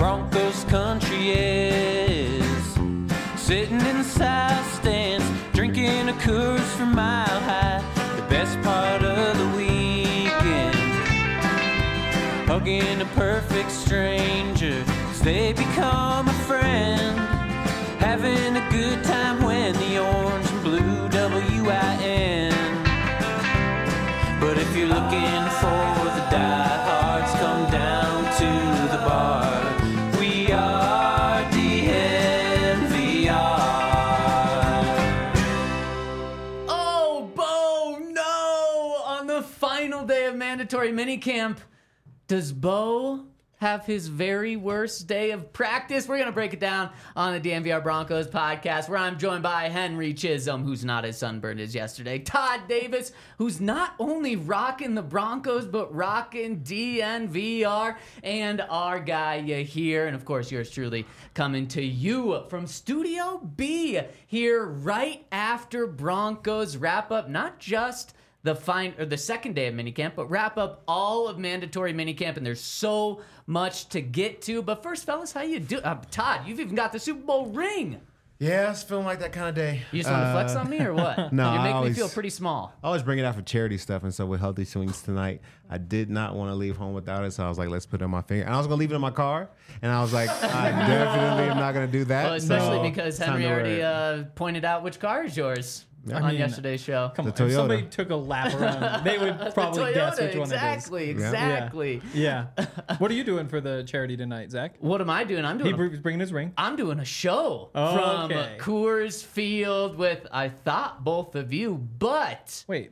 Broncos country is. Sitting in the south stands, drinking a Coors from Mile High. The best part of the weekend, hugging a perfect stranger as they become a friend. Having a good time when the orange and blue WIN. But if you're looking for the diehards, come down to the bar. We are DNVR. Oh, Bo, no! On the final day of mandatory minicamp, does Bo have his very worst day of practice? We're going to break it down on the DNVR Broncos podcast, where I'm joined by Henry Chisholm, who's not as sunburned as yesterday, Todd Davis, who's not only rocking the Broncos, but rocking DNVR, and our guy here, and of course yours truly, coming to you from Studio B here right after Broncos wrap up not just the second day of minicamp, but wrap up all of mandatory minicamp, and there's so much to get to. But first, fellas, how you do? Todd, you've even got the Super Bowl ring. Yeah, it's feeling like that kind of day. You just want to flex on me or what? No, You're making me feel pretty small. I always bring it out for charity stuff, and so with Healthy Swings tonight, I did not want to leave home without it, so I was like, let's put it on my finger. And I was going to leave it in my car, and I was like, I definitely am not going to do that. Well, especially so because Henry already pointed out which car is yours. On yesterday's show. Come on, Toyota. if somebody took a lap around, they would probably Toyota, guess which one exactly. it is. Yeah. What are you doing for the charity tonight, Zach? What am I doing? He's bringing his ring. I'm doing a show from Coors Field with, I thought, both of you, but Wait.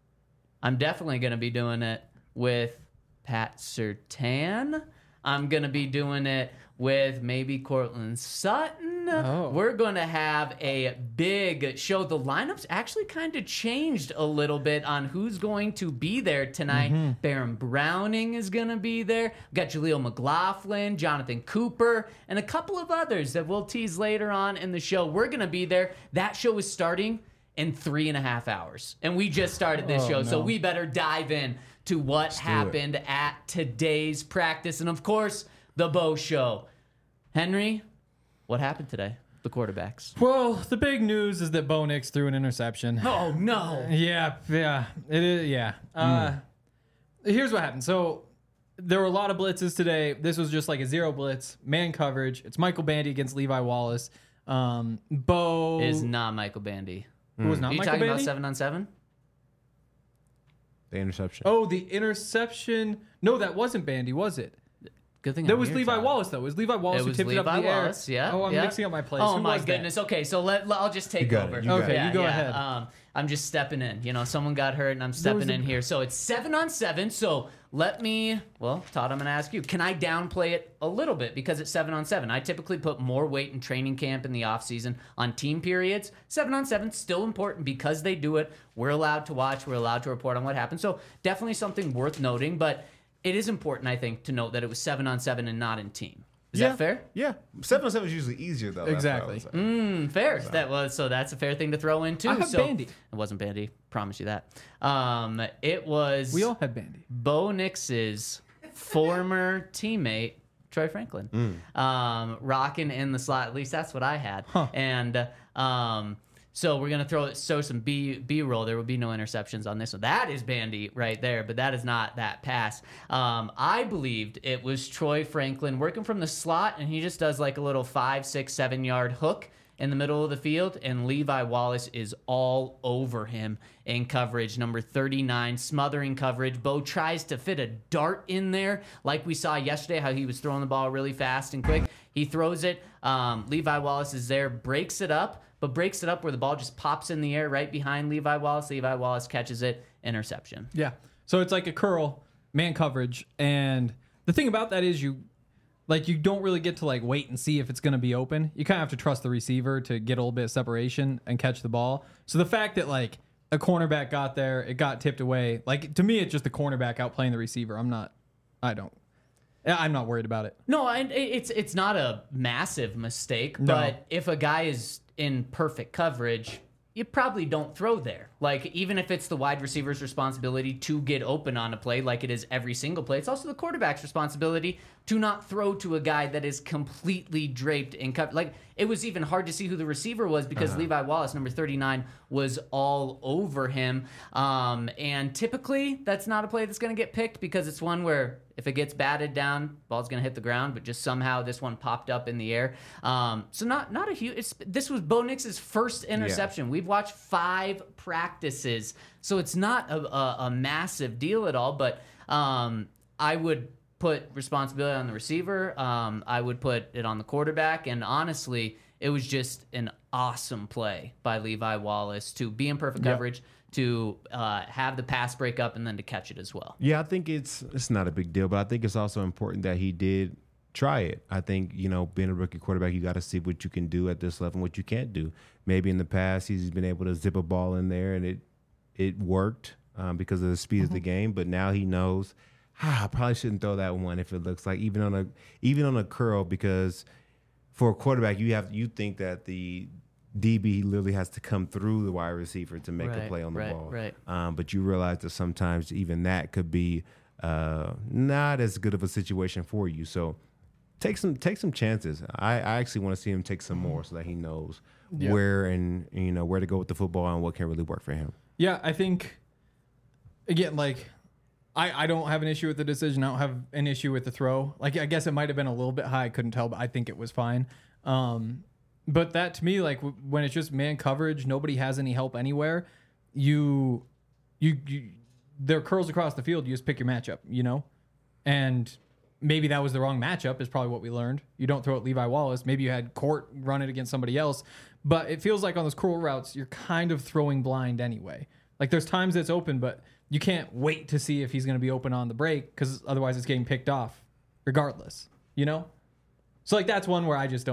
I'm definitely going to be doing it with Pat Surtain. I'm going to be doing it with maybe Cortland Sutton. Oh. We're going to have a big show. The lineup's actually kind of changed a little bit on who's going to be there tonight. Baron Browning is going to be there. We've got Jaleel McLaughlin, Jonathan Cooper, and a couple of others that we'll tease later on in the show. We're going to be there. That show is starting in 3.5 hours. And we just started this show, so we better dive in to what happened at today's practice. And, of course, the Bo Show. Henry, what happened today? The quarterbacks. Well, the big news is that Bo Nix threw an interception. Oh, no. Yeah, it is. Yeah. Here's what happened. So there were a lot of blitzes today. This was just like a zero blitz, man coverage. It's Michael Bandy against Levi Wallace. Bo is not Michael Bandy. Who was not Are you Michael talking Bandy? about 7-on-7? The interception. Oh, the interception. No, that wasn't Bandy, was it? Good thing That I'm was here, Levi Todd. Wallace, though. It was Levi Wallace It who was tipped it up in Levi the air. Wallace, yeah. Oh, I'm yeah. mixing up my plays. Oh, Who my was that? goodness. Okay, so I'll just take got it. over. You got Okay, it. you go ahead. I'm just stepping in. You know, someone got hurt, and I'm stepping in here. So it's 7-on-7. So let me, well, Todd, I'm going to ask you, can I downplay it a little bit because it's 7-on-7? I typically put more weight in training camp in the offseason on team periods. 7-on-7 still important because they do it. We're allowed to watch. We're allowed to report on what happened. So definitely something worth noting, but it is important, I think, to note that it was 7-on-7 and not in team. Is that fair? Yeah. 7-on-7 is usually easier, though. Exactly. Fair. So that's a fair thing to throw in too. I have Bandy. It wasn't Bandy. Promise you that. It was. We all had Bandy. Bo Nix's former teammate Troy Franklin, rocking in the slot. At least that's what I had. And so we're gonna show some B-roll. There will be no interceptions on this one. That is Bandy right there, but that is not that pass. I believed it was Troy Franklin working from the slot, and he just does like a little 5, 6, 7 yard hook in the middle of the field, and Levi Wallace is all over him in coverage. Number 39, smothering coverage. Bo tries to fit a dart in there, like we saw yesterday, how he was throwing the ball really fast and quick. He throws it. Levi Wallace is there, breaks it up where the ball just pops in the air right behind Levi Wallace. Levi Wallace catches it, interception. Yeah. So it's like a curl, man coverage. And the thing about that is you don't really get to wait and see if it's going to be open. You kind of have to trust the receiver to get a little bit of separation and catch the ball. So the fact that a cornerback got there, it got tipped away. To me, it's just the cornerback outplaying the receiver. I'm not worried about it. No, it's not a massive mistake, but if a guy is in perfect coverage, you probably don't throw there. Like, even if it's the wide receiver's responsibility to get open on a play, like it is every single play, it's also the quarterback's responsibility to not throw to a guy that is completely draped in cover. Like, it was even hard to see who the receiver was because Levi Wallace, number 39, was all over him. And typically, that's not a play that's going to get picked because it's one where if it gets batted down, ball's going to hit the ground, but just somehow this one popped up in the air. So not a huge. This was Bo Nix's first interception. Yeah. We've watched 5 practices, so it's not a massive deal at all. But I would put responsibility on the receiver. I would put it on the quarterback, and honestly, it was just an awesome play by Levi Wallace to be in perfect coverage, to have the pass break up, and then to catch it as well. Yeah, I think it's not a big deal, but I think it's also important that he did try it. I think, being a rookie quarterback, you got to see what you can do at this level and what you can't do. Maybe in the past he's been able to zip a ball in there and it worked because of the speed of the game, but now he knows, I probably shouldn't throw that one if it looks like even on a curl, because for a quarterback you think that the DB literally has to come through the wide receiver to make a play on the ball. Right. But you realize that sometimes even that could be not as good of a situation for you. So take some chances. I actually want to see him take some more so that he knows where and where to go with the football and what can really work for him. Yeah, I think again, like I don't have an issue with the decision. I don't have an issue with the throw. Like, I guess it might have been a little bit high. I couldn't tell, but I think it was fine. But that to me, like when it's just man coverage, nobody has any help anywhere. There are curls across the field. You just pick your matchup, and maybe that was the wrong matchup is probably what we learned. You don't throw at Levi Wallace. Maybe you had Court run it against somebody else, but it feels like on those curl routes, you're kind of throwing blind anyway. Like there's times it's open, but you can't wait to see if he's going to be open on the break because otherwise it's getting picked off regardless, So like that's one where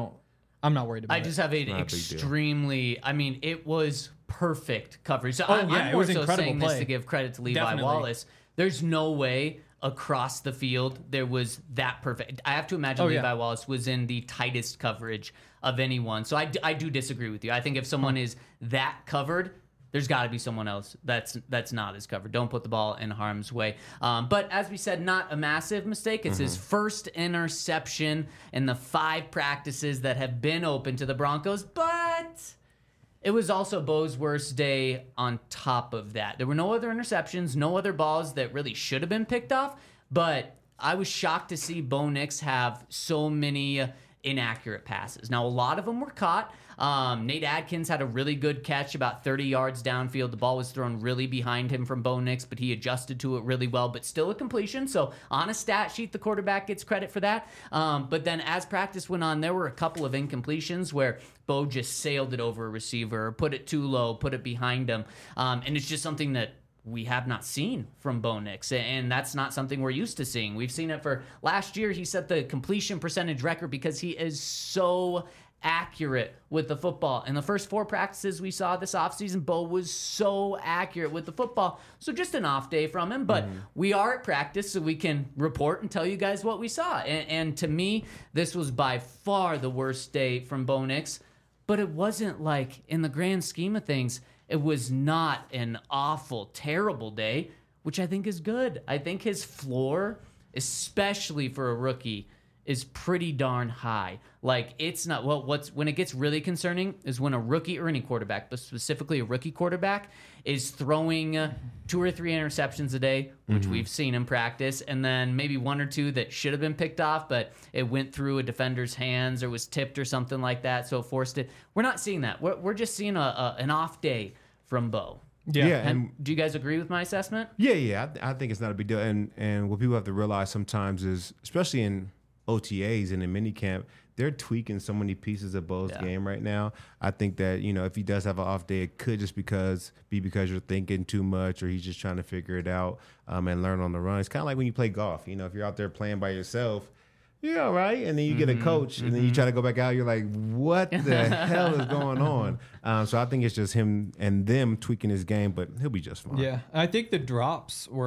I'm not worried about it. I just have an extremely, it was perfect coverage. So I'm it more was so incredible saying play. this to give credit to Levi Definitely. Wallace. There's no way across the field there was that perfect. I have to imagine Levi Wallace was in the tightest coverage of anyone. So I do disagree with you. I think if someone is that covered, there's got to be someone else that's not as covered. Don't put the ball in harm's way. But as we said, not a massive mistake. It's his first interception in the 5 practices that have been open to the Broncos. But it was also Bo's worst day on top of that. There were no other interceptions, no other balls that really should have been picked off. But I was shocked to see Bo Nix have so many inaccurate passes. Now, a lot of them were caught. Nate Adkins had a really good catch about 30 yards downfield. The ball was thrown really behind him from Bo Nix, but he adjusted to it really well, but still a completion. So on a stat sheet, the quarterback gets credit for that. But then as practice went on, there were a couple of incompletions where Bo just sailed it over a receiver, or put it too low, put it behind him. And it's just something that we have not seen from Bo Nix, and that's not something we're used to seeing. We've seen it for last year. He set the completion percentage record because he is so accurate with the football. In the first 4 practices we saw this offseason, Bo was so accurate with the football. So just an off day from him, but we are at practice, so we can report and tell you guys what we saw. And to me, this was by far the worst day from Bo Nix, but it wasn't like, in the grand scheme of things, it was not an awful, terrible day, which I think is good. I think his floor, especially for a rookie, is pretty darn high. Like, it's not, when it gets really concerning is when a rookie, or any quarterback, but specifically a rookie quarterback, is throwing 2 or 3 interceptions a day, which we've seen in practice, and then maybe 1 or 2 that should have been picked off, but it went through a defender's hands or was tipped or something like that, so it forced it. We're not seeing that. We're just seeing an off day from Bo. Yeah. And do you guys agree with my assessment? Yeah. I think it's not a big deal. And what people have to realize sometimes is, especially in OTAs and in minicamp, they're tweaking so many pieces of Bo's game right now. I think that, if he does have an off day, it could just be because you're thinking too much, or he's just trying to figure it out and learn on the run. It's kind of like when you play golf. If you're out there playing by yourself, you're all right, and then you get a coach, and then you try to go back out, you're like, what the hell is going on? So I think it's just him and them tweaking his game, but he'll be just fine. Yeah, I think the drops were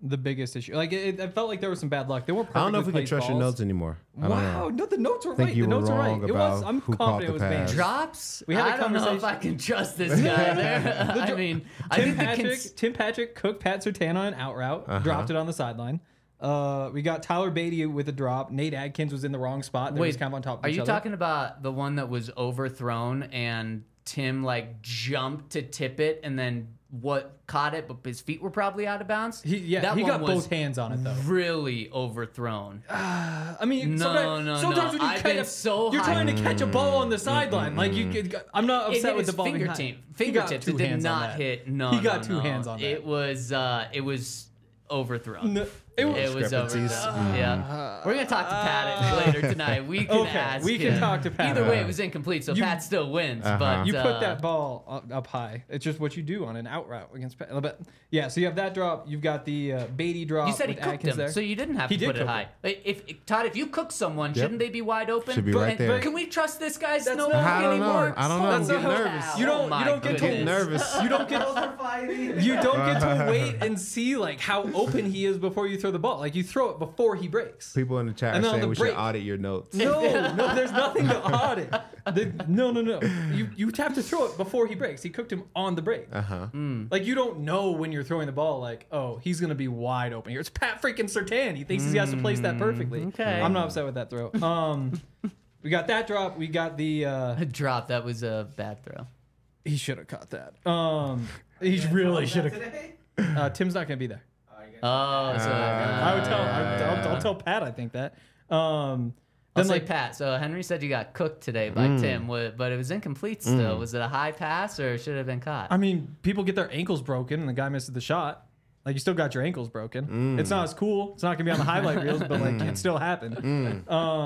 the biggest issue. Like I felt like there was some bad luck. They weren't I don't know if we perfectly can placed trust your balls. notes anymore. I don't Wow, know. no, the notes were think right. you The were notes were right. wrong It was. about I'm who caught confident the it was banned. pass. Drops. We had a I don't know if conversation. I can trust this guy there. I mean, I Tim think Tim Patrick cooked Pat Surtain on an out route, dropped it on the sideline. We got Tyler Beatty with a drop. Nate Adkins was in the wrong spot. They was kind of on top of Are each you other. talking about the one that was overthrown and Tim like jumped to tip it and then caught it, but his feet were probably out of bounds? He one got was both hands on it though. really overthrown. I mean, No, sometimes when you I've catch been so you're high. trying to catch a ball on the sideline. Like you could, I'm not It upset hit with the his ball being high. fingertips. He got It two did hands on not that. hit. No, He got no, two no. hands on that. It was overthrown. No, it was Overthrown. Yeah, we're gonna talk to Pat later tonight. We can Okay, ask. we can him. talk to Pat. Either way, it was incomplete, so Pat still wins. But You put that ball up high. It's just what you do on an out route against Pat. But yeah, so you have that drop. You've got the Beatty drop. You said he with cooked Atkins him, there. so you didn't have He to did put it cook high. If Todd, if you cook someone, shouldn't they be wide open? Should be right there. Can we trust this guy's That's no not- I don't know. anymore? I don't know. That's I'm not getting how- nervous. You don't. Oh You don't get my to goodness. nervous. You don't get. You don't get to wait and see like how open he is before you throw the ball. Like you throw it before he breaks. People in the chat And are then on saying the we break- should audit your notes. No, there's nothing to audit. No. You have to throw it before he breaks. He cooked him on the break. Like you don't know when you're throwing the ball. Like, oh, he's gonna be wide open here. It's Pat freaking Surtain. He thinks he has to place that perfectly. Okay. I'm not upset with that throw. We got that drop. We got the. A drop. That was a bad throw. He should have caught that. He really should have. Tim's not gonna be there. Oh, so I would tell. I'll tell Pat. I think that. Then Then like Pat. So Henry said you got cooked today by Tim, but it was incomplete still. Was it a high pass or should it have been caught? I mean, people get their ankles broken and the guy misses the shot. Like you still got your ankles broken. It's not as cool. It's not gonna be on the highlight reels, but like it still happened.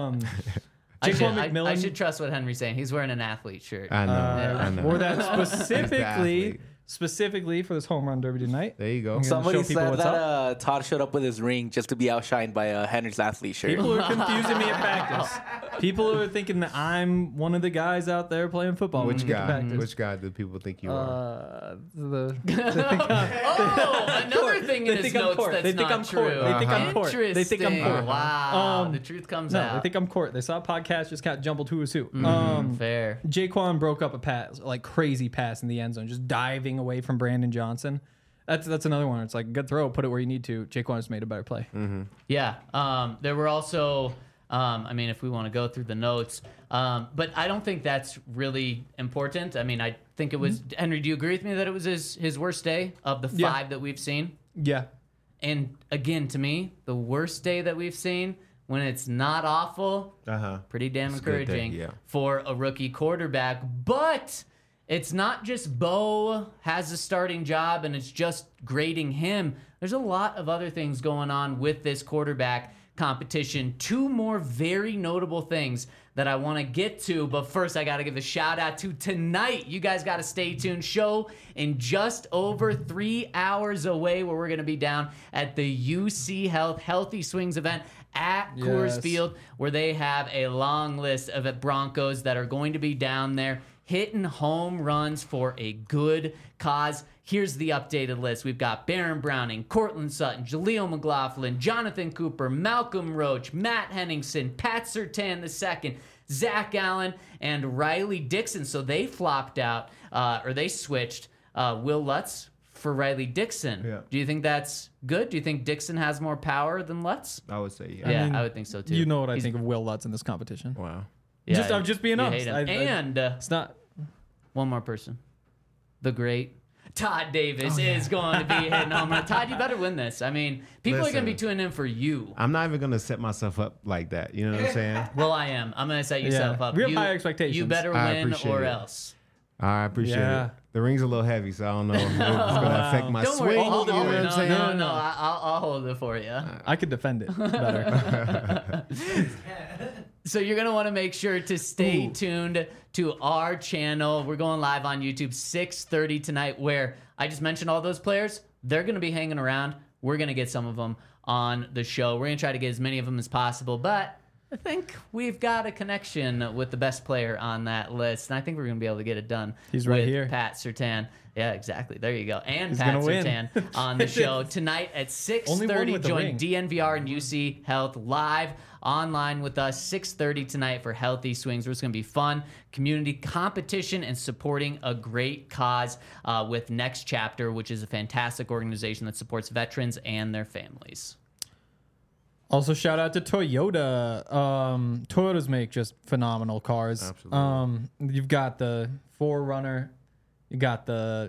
I Jaquan should, McMillan I should trust what Henry's saying. He's wearing an athlete shirt. I know. I know. wore that athlete. specifically for this home run derby tonight. There you go. gonna Somebody show people said what's that Todd showed up with his ring just to be outshined by Henry's athlete shirt. People are confusing me at practice. People are thinking that I'm one of the guys out there playing football. when Which we get to guy? practice. Which guy do people think you are? Oh, another thing in They his think I'm notes Court. that's They think not I'm Court. true. They think I'm Court. They think I'm Interesting. Court. Wow, the truth comes No, out. they think I'm Court. They saw a podcast, just got jumbled who is who. Fair. Jaquan broke up a pass, like crazy pass in the end zone, just diving away from Brandon Johnson. That's another one. It's like good throw, put it where you need to. Jaquan just made a better play. Yeah. There were also, I mean, if we want to go through the notes, but I don't think that's really important. I mean, I think it was, Henry, do you agree with me that it was his worst day of the Yeah. 5 that we've seen? Yeah. And again, to me, the worst day that we've seen when it's not awful, pretty damn It's a good day, encouraging yeah. for a rookie quarterback. But it's not just Bo has a starting job and it's just grading him. There's a lot of other things going on with this quarterback competition. 2 more very notable things that I want to get to, but first I got to give a shout out to tonight. You guys got to stay tuned. Show in just over 3 hours away, where we're going to be down at the UC Health Healthy Swings event at Coors Yes. Field, where they have a long list of Broncos that are going to be down there hitting home runs for a good cause. Here's the updated list. We've got Baron Browning, Cortland Sutton, Jaleel McLaughlin, Jonathan Cooper, Malcolm Roach, Matt Henningsen, Pat Surtain II, Zach Allen, and Riley Dixon. So they flopped out, or they switched Will Lutz for Riley Dixon. Yeah. Do you think that's good? Do you think Dixon has more power than Lutz? I would say yeah. Yeah, mean, I would think so too. You know what I He's- think of Will Lutz in this competition. Wow. yeah, I'm just being you honest. hate him. And It's not. one more person. The great Todd Davis Oh, is going to be hitting home run. Todd, you better win this. I mean, people are going to be Listen. tuning in for you. I'm not even gonna set myself up like that. You know what I'm saying? Well, I am. I'm going to set yourself Yeah. up. We have You- high expectations. You better I win appreciate or it. else. I appreciate Yeah. it. The ring's a little heavy, so I don't know if it's gonna affect my Don't swing. worry. You I'll know hold what it. I'm saying? No. I'll hold it for you. I could defend it better. So you're going to want to make sure to stay tuned to our channel. We're going live on YouTube 6:30 tonight, where I just mentioned all those players. They're going to be hanging around. We're going to get some of them on the show. We're going to try to get as many of them as possible, but I think we've got a connection with the best player on that list, and I think we're going to be able to get it done. He's right with here. Pat Surtain. Yeah, exactly. There you go. And He's Pat gonna win. Sertan on the show tonight at Only one 6:30. with the Join ring. DNVR and UC Health live online with us 6:30 tonight for Healthy Swings. It's going to be fun, community competition, and supporting a great cause with Next Chapter, which is a fantastic organization that supports veterans and their families. Also, shout out to Toyota. Toyotas make just phenomenal cars. Absolutely. You've got the 4Runner. You got the.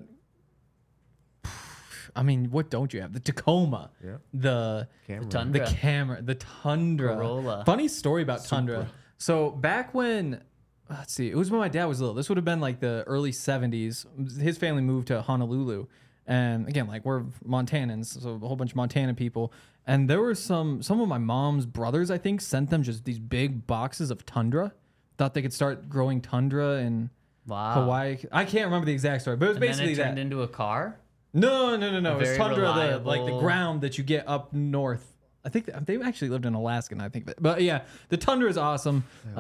I mean, what don't you have? The Tacoma. Yeah. The Camera. Tundra. The Camry. The Tundra. Corolla. Funny story about Tundra. So back when. Let's see. It was when my dad was little. This would have been like the early 70s. His family moved to Honolulu. And again, like we're Montanans, so a whole bunch of Montana people. And there were some of my mom's brothers, I think, sent them just these big boxes of Tundra. Thought they could start growing Tundra in Wow. Hawaii. I can't remember the exact story, but it was And then basically it turned that. into a car? No. It was very Tundra, like the reliable- ground that you get up north. I think they actually lived in Alaska, and I think, but yeah, the Tundra is awesome.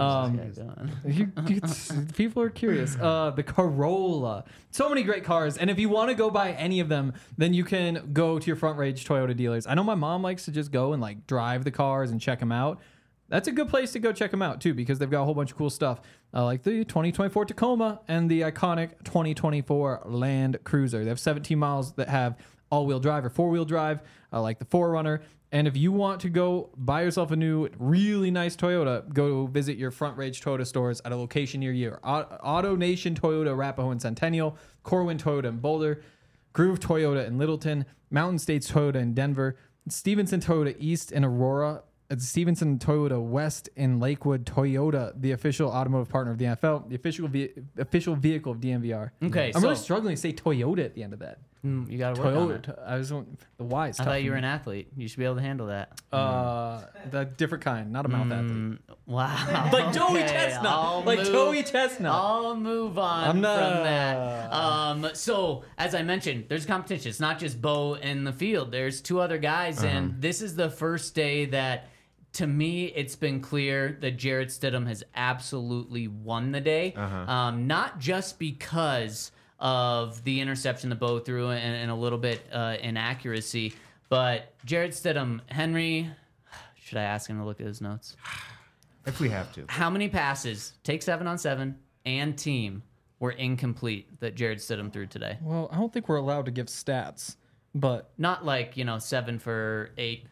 People are curious. The Corolla, so many great cars, and if you want to go buy any of them, then you can go to your Front Range Toyota dealers. I know my mom likes to just go and like drive the cars and check them out. That's a good place to go check them out too, because they've got a whole bunch of cool stuff, like the 2024 Tacoma and the iconic 2024 Land Cruiser. They have 17 miles that have all-wheel drive or four-wheel drive, like the 4Runner. And if you want to go buy yourself a new, really nice Toyota, go visit your Front Range Toyota stores at a location near you. Auto Nation Toyota, Arapahoe and Centennial, Corwin Toyota in Boulder, Groove Toyota in Littleton, Mountain States Toyota in Denver, Stevenson Toyota East in Aurora, Stevenson Toyota West in Lakewood. Toyota, the official automotive partner of the NFL, the official vehicle of DNVR. Okay, I'm so really struggling to say Toyota at the end of that. you got to work on it. Toyota. The Y is I tough thought you for were me. an athlete. You should be able to handle that. The different kind, not a mouth athlete. Wow. Like Joey Okay, Chestnut. I'll Like move- Joey Chestnut. I'll move on I'm from not- that. So, as I mentioned, there's competition. It's not just Bo in the field. There's two other guys, and this is the first day that, to me, it's been clear that Jarrett Stidham has absolutely won the day. Not just because of the interception that Bo threw and a little bit inaccuracy, but Jarrett Stidham, Henry, should I ask him to look at his notes? If we have to. How many passes, take 7-on-7 and team, were incomplete that Jarrett Stidham threw today? Well, I don't think we're allowed to give stats, but Not like, 7 for 8.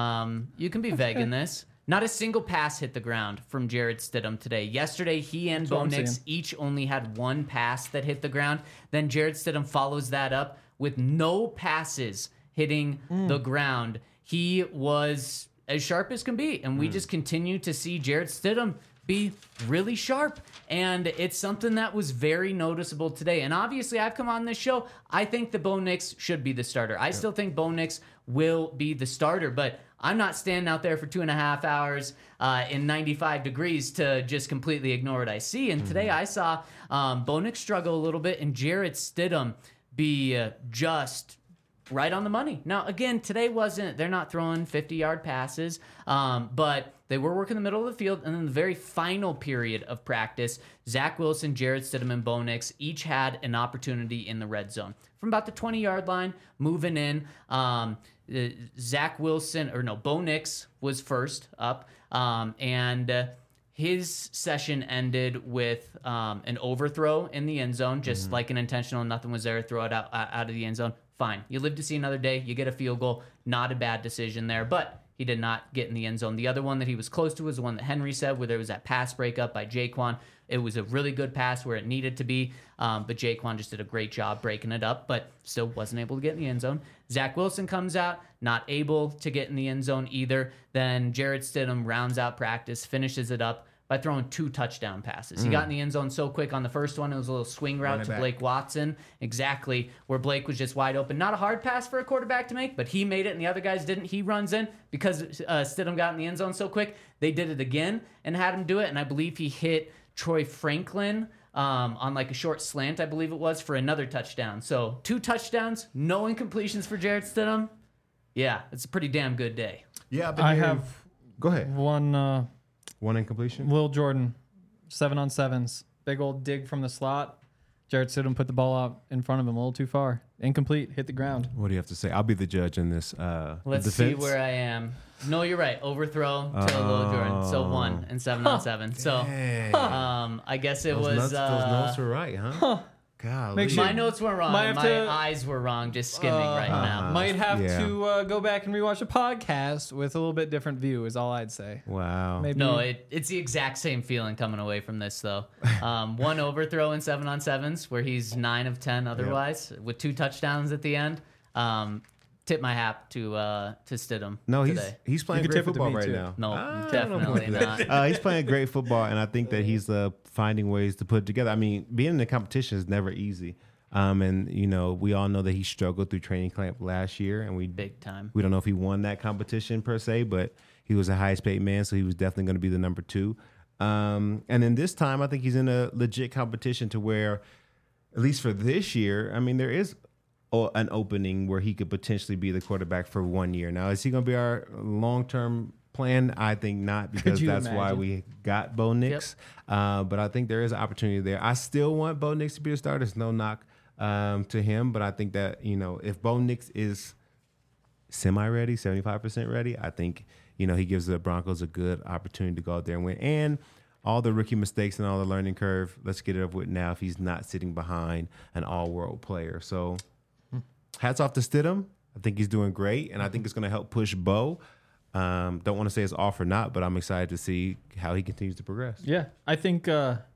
You can be vague in this. Not a single pass hit the ground from Jarrett Stidham today. Yesterday, he and Bo what I'm Nix seeing. each only had one pass that hit the ground. Then Jarrett Stidham follows that up with no passes hitting the ground. He was as sharp as can be, and we just continue to see Jarrett Stidham be really sharp, and it's something that was very noticeable today. And obviously, I've come on this show, I think that Bo Nix should be the starter. I still think Bo Nix will be the starter, but I'm not standing out there for 2.5 hours in 95 degrees to just completely ignore what I see. And today I saw Bo Nix struggle a little bit and Jarrett Stidham be just right on the money. Now, again, today they're not throwing 50-yard passes, but they were working the middle of the field. And in the very final period of practice, Zach Wilson, Jarrett Stidham, and Bo Nix each had an opportunity in the red zone. From about the 20-yard line, moving in, Bo Nix was first up, and his session ended with an overthrow in the end zone, just like an intentional, nothing was there, throw it out of the end zone. Fine. You live to see another day. You get a field goal. Not a bad decision there, but he did not get in the end zone. The other one that he was close to was the one that Henry said, where there was that pass breakup by Jaquan. It was a really good pass where it needed to be, but Jaquan just did a great job breaking it up, but still wasn't able to get in the end zone. Zach Wilson comes out, not able to get in the end zone either. Then Jarrett Stidham rounds out practice, finishes it up by throwing 2 touchdown passes. He got in the end zone so quick on the first one. It was a little swing route to Blake Watson, exactly where Blake was just wide open. Not a hard pass for a quarterback to make, but he made it and the other guys didn't. He runs in because Stidham got in the end zone so quick. They did it again and had him do it, and I believe he hit Troy Franklin on like a short slant, I believe it was, for another touchdown. So 2 touchdowns, no incompletions for Jarrett Stidham. Yeah, it's a pretty damn good day. Yeah, but I have Go ahead. one One incompletion. Will Jordan, 7-on-7s, big old dig from the slot. Jarrett Stidham put the ball out in front of him a little too far. Incomplete, hit the ground. What do you have to say? I'll be the judge in this. Let's see where I am. No, you're right. Overthrow to Lil Jordan. So 1 and 7 on 7. So I guess it was. Those notes were right, huh? God, Make sure- My notes were wrong. Might have My to- eyes were wrong. Just skimming right now. Might have Yeah. to go back and rewatch a podcast with a little bit different view is all I'd say. Wow. Maybe. No, it's the exact same feeling coming away from this though. 1 overthrow in 7 on 7s where he's 9 of 10 otherwise with 2 touchdowns at the end. Tip my hat to Stidham. No, today. he's playing You could great tip it to football me, right too. now. No, I don't know definitely about that. not. He's playing great football, and I think that he's finding ways to put it together. I mean, being in the competition is never easy. And we all know that he struggled through training camp last year, and we Big time. don't know if he won that competition per se, but he was the highest paid man, so he was definitely going to be the number 2. And then this time, I think he's in a legit competition to where, at least for this year, I mean, there is an opening where he could potentially be the quarterback for 1 year. Now, is he going to be our long-term plan? I think not, because you that's why imagine? we got Bo Nix. But I think there is an opportunity there. I still want Bo Nix to be the starter. There's no knock to him, but I think that, if Bo Nix is semi-ready, 75% ready, I think, he gives the Broncos a good opportunity to go out there and win. And all the rookie mistakes and all the learning curve, let's get it over with now if he's not sitting behind an all-world player. So hats off to Stidham. I think he's doing great, and I think it's going to help push Bo. Don't want to say it's off or not, but I'm excited to see how he continues to progress. Yeah, I think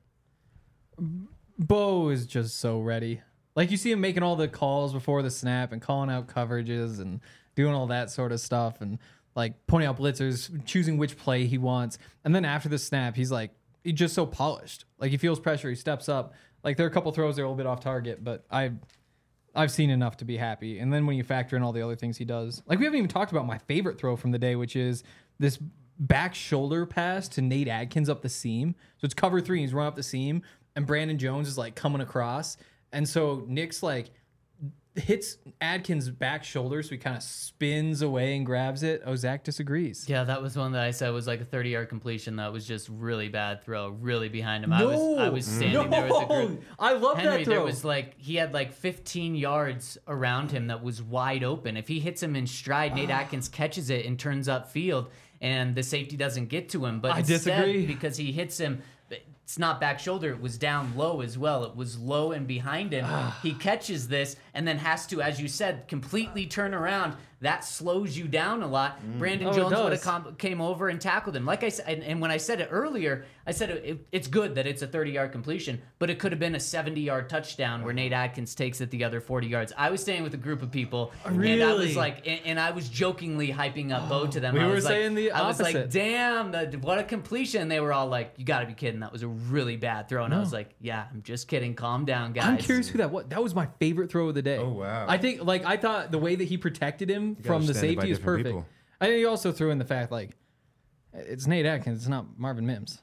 Bo is just so ready. Like, you see him making all the calls before the snap and calling out coverages and doing all that sort of stuff and like pointing out blitzers, choosing which play he wants. And then after the snap, he's just so polished. Like, he feels pressure, he steps up. Like, there are a couple throws that are a little bit off target, but I've seen enough to be happy. And then when you factor in all the other things he does, like, we haven't even talked about my favorite throw from the day, which is this back shoulder pass to Nate Adkins up the seam. So it's cover 3, he's run up the seam, and Brandon Jones is like coming across. And so Nick's like hits Adkins' back shoulder, so he kind of spins away and grabs it. Oh, Zach disagrees. Yeah, that was one that I said was like a 30-yard completion. That was just really bad throw, really behind him. I was standing there with the group. I love Henry, that throw. there was he had 15 yards around him that was wide open. If he hits him in stride, Nate Atkins catches it and turns upfield, and the safety doesn't get to him. But I instead, disagree. because he hits him. It's not back shoulder. It was down low as well. It was low and behind him. He catches this and then has to, as you said, completely turn around. That slows you down a lot. Brandon Jones would have came over and tackled him. Like I said, and when I said it earlier, I said it's good that it's a 30-yard completion, but it could have been a 70-yard touchdown where Nate Adkins takes it the other 40 yards. I was staying with a group of people, and I was and I was jokingly hyping up Bo to them. We I were was saying the I was like, opposite. damn, what a completion. And they were all like, you got to be kidding. That was a really bad throw. And I was like, yeah, I'm just kidding. Calm down, guys. I'm curious who that was. That was my favorite throw of the day. Oh, wow. I think, I thought the way that he protected him from the stand by safety is different perfect. people. I think you also threw in the fact, it's Nate Atkins, it's not Marvin Mims.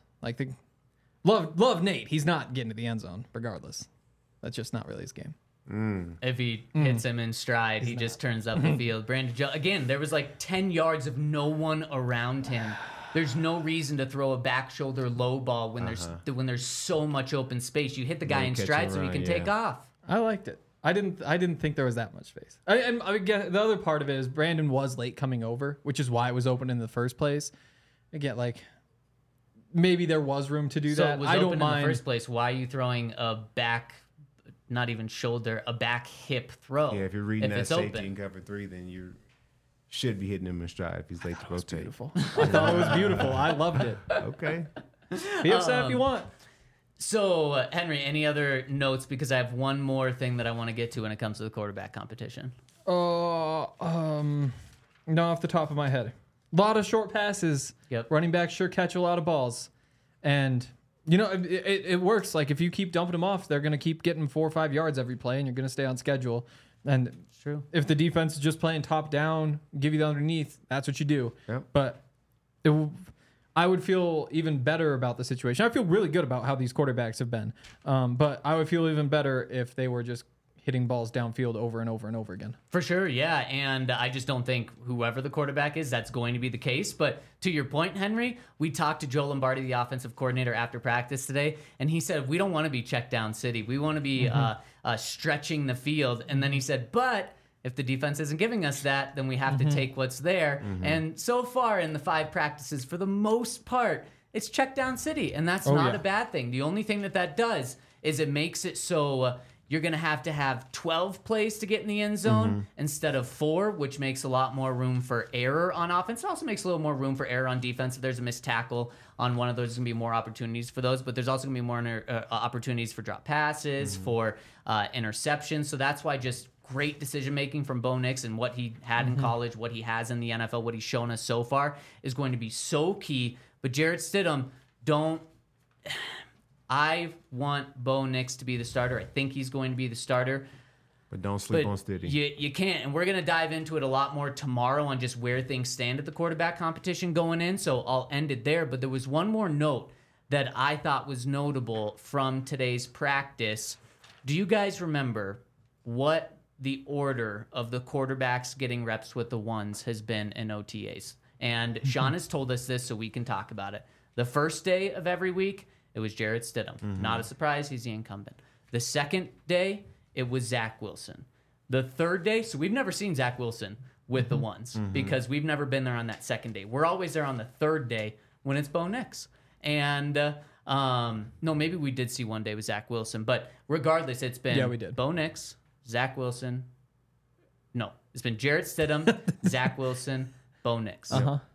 Love Nate. He's not getting to the end zone, regardless. That's just not really his game. If he hits him in stride, he just turns up the field. Brandon Jones, again, there was 10 yards of no one around him. There's no reason to throw a back shoulder low ball when there's so much open space. You hit the guy in catch stride and so he run, can take off. I liked it. I didn't think there was that much space. I guess the other part of it is Brandon was late coming over, which is why it was open in the first place. Again, maybe there was room to do So that. it was I open don't in mind. the first place. Why are you throwing a back, not even shoulder, a back hip throw? Yeah, if you're reading that it's safety open? in cover 3, then you should be hitting him in stride if he's late to rotate. Beautiful. I thought it was beautiful. I loved it. Okay. Be upset if you want. So, Henry, any other notes? Because I have one more thing that I want to get to when it comes to the quarterback competition. Not off the top of my head. A lot of short passes. Yep. Running backs sure catch a lot of balls. And, it works. If you keep dumping them off, they're going to keep getting 4 or 5 yards every play, and you're going to stay on schedule. And It's true. if the defense is just playing top down, give you the underneath, that's what you do. Yep. But I would feel even better about the situation. I feel really good about how these quarterbacks have been. But I would feel even better if they were just hitting balls downfield over and over and over again. For sure, yeah. And I just don't think whoever the quarterback is, that's going to be the case. But to your point, Henry, we talked to Joe Lombardi, the offensive coordinator, after practice today, and he said, we don't want to be check down city. We want to be stretching the field. And then he said, but if the defense isn't giving us that, then we have to take what's there. And so far in the 5 practices, for the most part, it's check down city. And that's not a bad thing. The only thing that does is it makes it so you're going to have 12 plays to get in the end zone instead of 4, which makes a lot more room for error on offense. It also makes a little more room for error on defense. If there's a missed tackle on one of those, there's going to be more opportunities for those. But there's also going to be more opportunities for drop passes, for interceptions. So that's why just great decision-making from Bo Nix and what he had in college, what he has in the NFL, what he's shown us so far is going to be so key. But Jarrett Stidham, I want Bo Nix to be the starter. I think he's going to be the starter. But don't sleep on Stiddy. You can't. And we're going to dive into it a lot more tomorrow on just where things stand at the quarterback competition going in. So I'll end it there. But there was one more note that I thought was notable from today's practice. Do you guys remember what the order of the quarterbacks getting reps with the ones has been in OTAs? And Sean has told us this, so we can talk about it. The first day of every week, it was Jarrett Stidham. Not a surprise. He's the incumbent. The second day, it was Zach Wilson. The third day, so we've never seen Zach Wilson with the ones because we've never been there on that second day. We're always there on the third day when it's Bo Nix. And no, maybe we did see one day with Zach Wilson. But regardless, it's been we did. Bo Nix, Zach Wilson. No, it's been Jarrett Stidham, Zach Wilson, Bo Nix.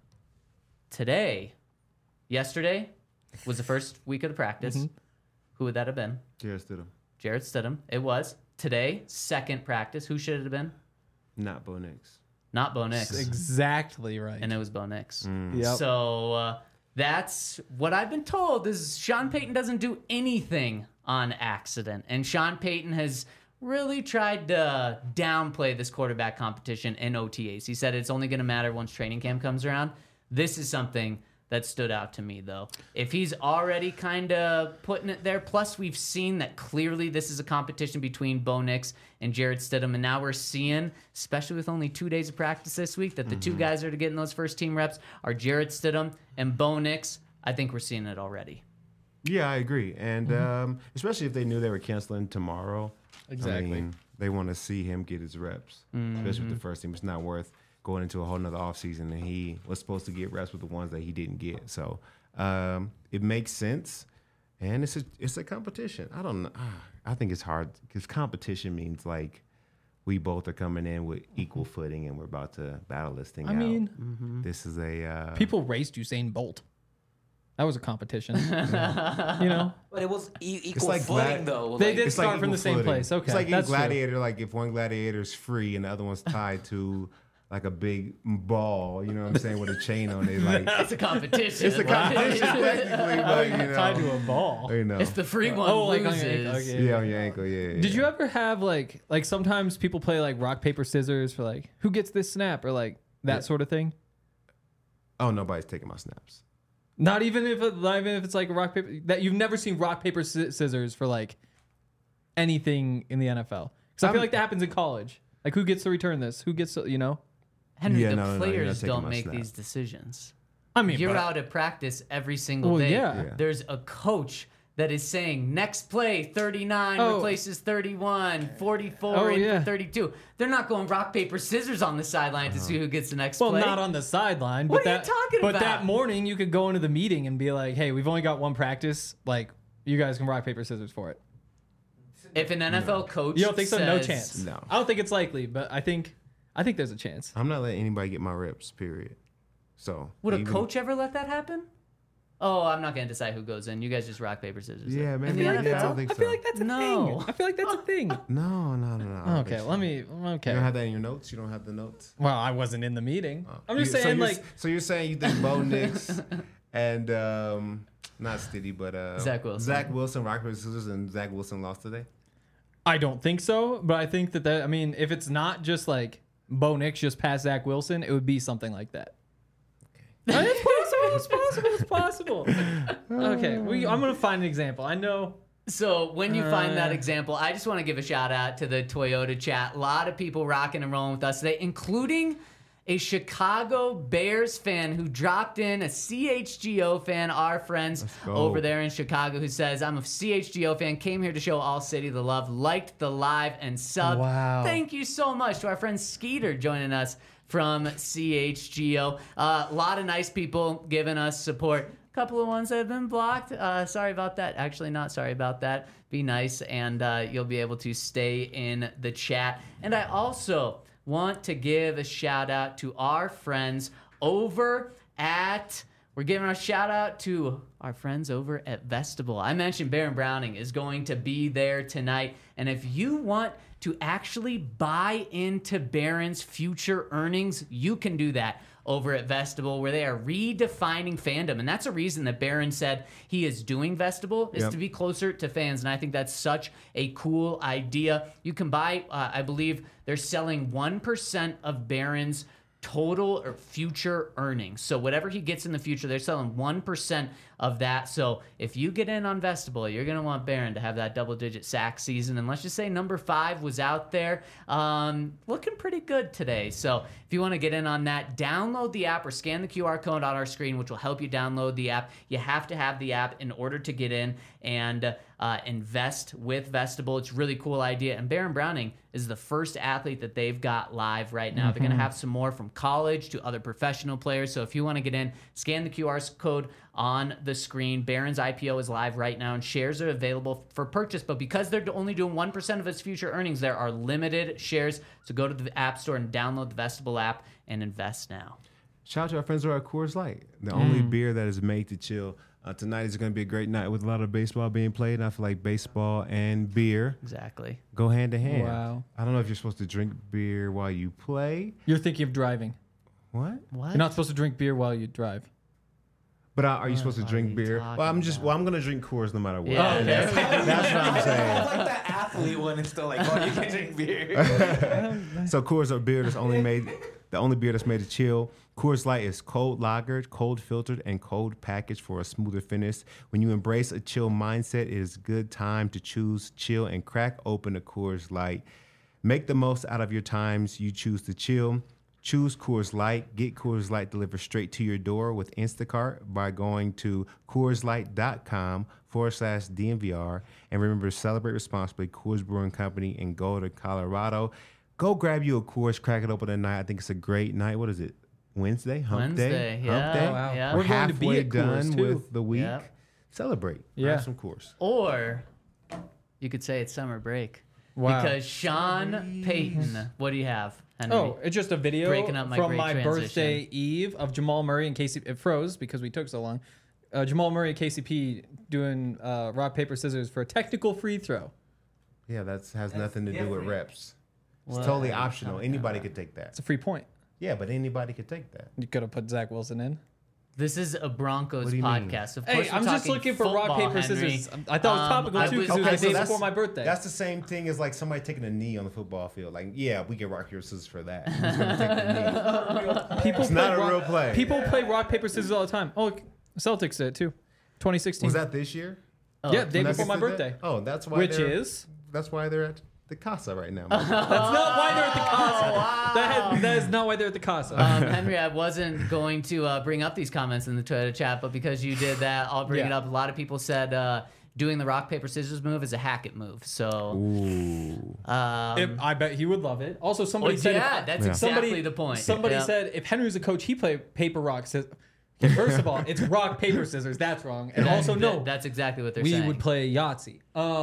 Yesterday was the first week of the practice. Who would that have been? Jarrett Stidham. Jarrett Stidham. It was. Today, second practice. Who should it have been? Not Bo Nix. Not Bo Nix. Exactly right. And it was Bo Nix. Yep. So that's what I've been told is Sean Payton doesn't do anything on accident. And Sean Payton has really tried to downplay this quarterback competition in OTAs. He said it's only going to matter once training camp comes around. This is something that stood out to me, though. If he's already kind of putting it there, plus we've seen that clearly this is a competition between Bo Nix and Jarrett Stidham, and now we're seeing, especially with only 2 days of practice this week, that the two guys that are getting those first team reps are Jarrett Stidham and Bo Nix. I think we're seeing it already. Yeah, I agree. And especially if they knew they were canceling tomorrow. Exactly. I mean, they want to see him get his reps, especially with the first team. It's not worth going into a whole nother offseason, and he was supposed to get reps with the ones that he didn't get. So it makes sense, and it's a competition. I don't know. I think it's hard because competition means like we both are coming in with equal footing, and we're about to battle this thing out. I mean, this is a people raced Usain Bolt. That was a competition. You know? But it was equal like footing, though. They Like, did it's like start from equal the same footing. place. Okay, It's like that's in Gladiator, like if one gladiator is free and the other one's tied to like a big ball, you know what I'm saying, with a chain on it. Like It's a competition. it's a competition technically, but you know, tied to a ball. you know. If the free one Oh, like loses. on your ankle, okay. Yeah, on your ankle, yeah. Did you ever have like sometimes people play like rock paper scissors for like who gets this snap or like that sort of thing? Oh, nobody's taking my snaps. Not even if it's like a rock paper that you've never seen rock paper scissors for like anything in the NFL. Because I feel like that happens in college. Like who gets to return this? Who gets to, you know? Henry, Yeah, the no, you're not players taking don't my make snap. these decisions. I mean, You're but- out at practice every single Well, day. yeah. Yeah. There's a coach that is saying next play 39 Oh. replaces 31, 44 Oh, in yeah. for 32. They're not going rock paper scissors on the sideline to see who gets the next Well, play. not on the sideline. What but are you that, talking but about? that morning, you could go into the meeting and be like, "Hey, we've only got one practice. Like, you guys can rock paper scissors for it." If an NFL coach You don't think so? No says- chance. No. I don't think it's likely, but I think there's a chance. I'm not letting anybody get my reps, period. So Would a even- coach ever let that happen? Oh, I'm not going to decide who goes in. You guys just rock paper scissors. Yeah, In man. the Yeah, NFL? I don't think I so. feel like that's a No. thing. I feel like that's a thing. No. I don't Okay, think so. let me. You don't Okay. have that in your notes? You don't have the notes? Well, I wasn't in the meeting. I'm just So saying, you're- like, So you're saying you think Bo Nix and not Stiddy, but Zach Wilson. Zach Wilson, rock paper scissors, and Zach Wilson lost today? I don't think so, but I think that I mean, if it's not just like Bo Nix just passed Zach Wilson, it would be something like that. It's possible. It's possible. It's possible. Okay, I'm gonna find an example. I know So when you find that example, I just want to give a shout out to the Toyota chat. A lot of people rocking and rolling with us today, including a Chicago Bears fan who dropped in, a CHGO fan, our friends over there in Chicago, who says, I'm a CHGO fan, came here to show All City the love, liked the live and sub. Wow. Thank you so much to our friend Skeeter joining us from CHGO. A lot of nice people giving us support. Couple of ones that have been blocked. Sorry about that. Actually, not sorry about that. Be nice, and you'll be able to stay in the chat. And I also want to give a shout out to our friends over at. We're giving a shout out to our friends over at Vestibule. I mentioned Baron Browning is going to be there tonight, and if you want to actually buy into Baron's future earnings, you can do that over at Vestibule, where they are redefining fandom. And that's a reason that Baron said he is doing Vestibule, is to be closer to fans. And I think that's such a cool idea. You can buy, I believe they're selling 1% of Baron's total or future earnings. So whatever he gets in the future, they're selling 1% of that. So if you get in on Vestibule, you're going to want Baron to have that double-digit sack season. And let's just say number 5 was out there looking pretty good today. So if you want to get in on that, download the app or scan the QR code on our screen, which will help you download the app. You have to have the app in order to get in and invest with Vestibule. It's a really cool idea. And Baron Browning is the first athlete that they've got live right now. They're going to have some more from college to other professional players. So if you want to get in, scan the QR code on the screen. Baron's IPO is live right now, and shares are available for purchase. But because they're only doing 1% of its future earnings, there are limited shares. So go to the App Store and download the Vestibule app and invest now. Shout out to our friends over at Coors Light, the only beer that is made to chill. Tonight is going to be a great night with a lot of baseball being played. And I feel like baseball and beer Exactly. go hand in hand. Wow. I don't know if you're supposed to drink beer while you play. You're thinking of driving. What? What? You're not supposed to drink beer while you drive. But are you supposed to are drink you beer? talking Well, I'm going to drink Coors no matter what. Yeah, okay. That's what I'm saying. It's like that athlete one. It's still like, oh, you can drink beer. So Coors are beer that's only made, the only beer that's made to chill. Coors Light is cold lagered, cold filtered, and cold packaged for a smoother finish. When you embrace a chill mindset, it is a good time to choose chill and crack open a Coors Light. Make the most out of your times you choose to chill. Choose Coors Light. Get Coors Light delivered straight to your door with Instacart by going to CoorsLight.com/DNVR. And remember to celebrate responsibly. Coors Brewing Company in Golden, Colorado. Go grab you a Coors, crack it open tonight. I think it's a great night. What is it? Wednesday? Hump Day? Yeah. Hump Day? Wow. Yeah. We're We're going to be halfway at Coors, done too. with the week. Yep. Celebrate. Yeah. Have some Coors. Or you could say it's summer break. Wow. Because Sean Payton, what do you have, Henry? Oh, it's just a video Breaking up my from great my transition. birthday eve of Jamal Murray and KCP. It froze because we took so long. Jamal Murray and KCP doing rock, paper, scissors for a technical free throw. Yeah, that has nothing to do with reps. It's What? totally optional. Anybody could take that. It's a free point. Yeah, but anybody could take that. You could have put Zach Wilson in. This is a Broncos What do you mean? podcast. Of Hey, course, we're I'm just talking looking for rock, football, paper, Henry. scissors. I thought it was topical I too was- because it was the so day that's- before my birthday. That's the same thing as like somebody taking a knee on the football field. Like, yeah, we get rock, paper, scissors for that. Who's gonna take the knee? People It's not play a real play. People play rock, paper, scissors all the time. Oh, Celtics did it too. 2016. Was that this year? Yeah, day Nuggets before my did that? birthday. Oh, that's why. Which they're- is? That's why they're at the Casa right now. That's not why they're at the Casa. That is not why they're at the Casa. Henry, I wasn't going to bring up these comments in the Twitter chat, but because you did that, I'll bring it Yeah. up. A lot of people said doing the rock, paper, scissors move is a Hackett move. So, Ooh. I bet he would love it. Also, somebody well, said, yeah, that's exactly the point. Somebody Yeah. said if Henry was a coach, he play paper, rock, scissors. Okay, first of all, it's rock, paper, scissors. That's wrong. And also, no, That's exactly what they're we saying. would play Yahtzee.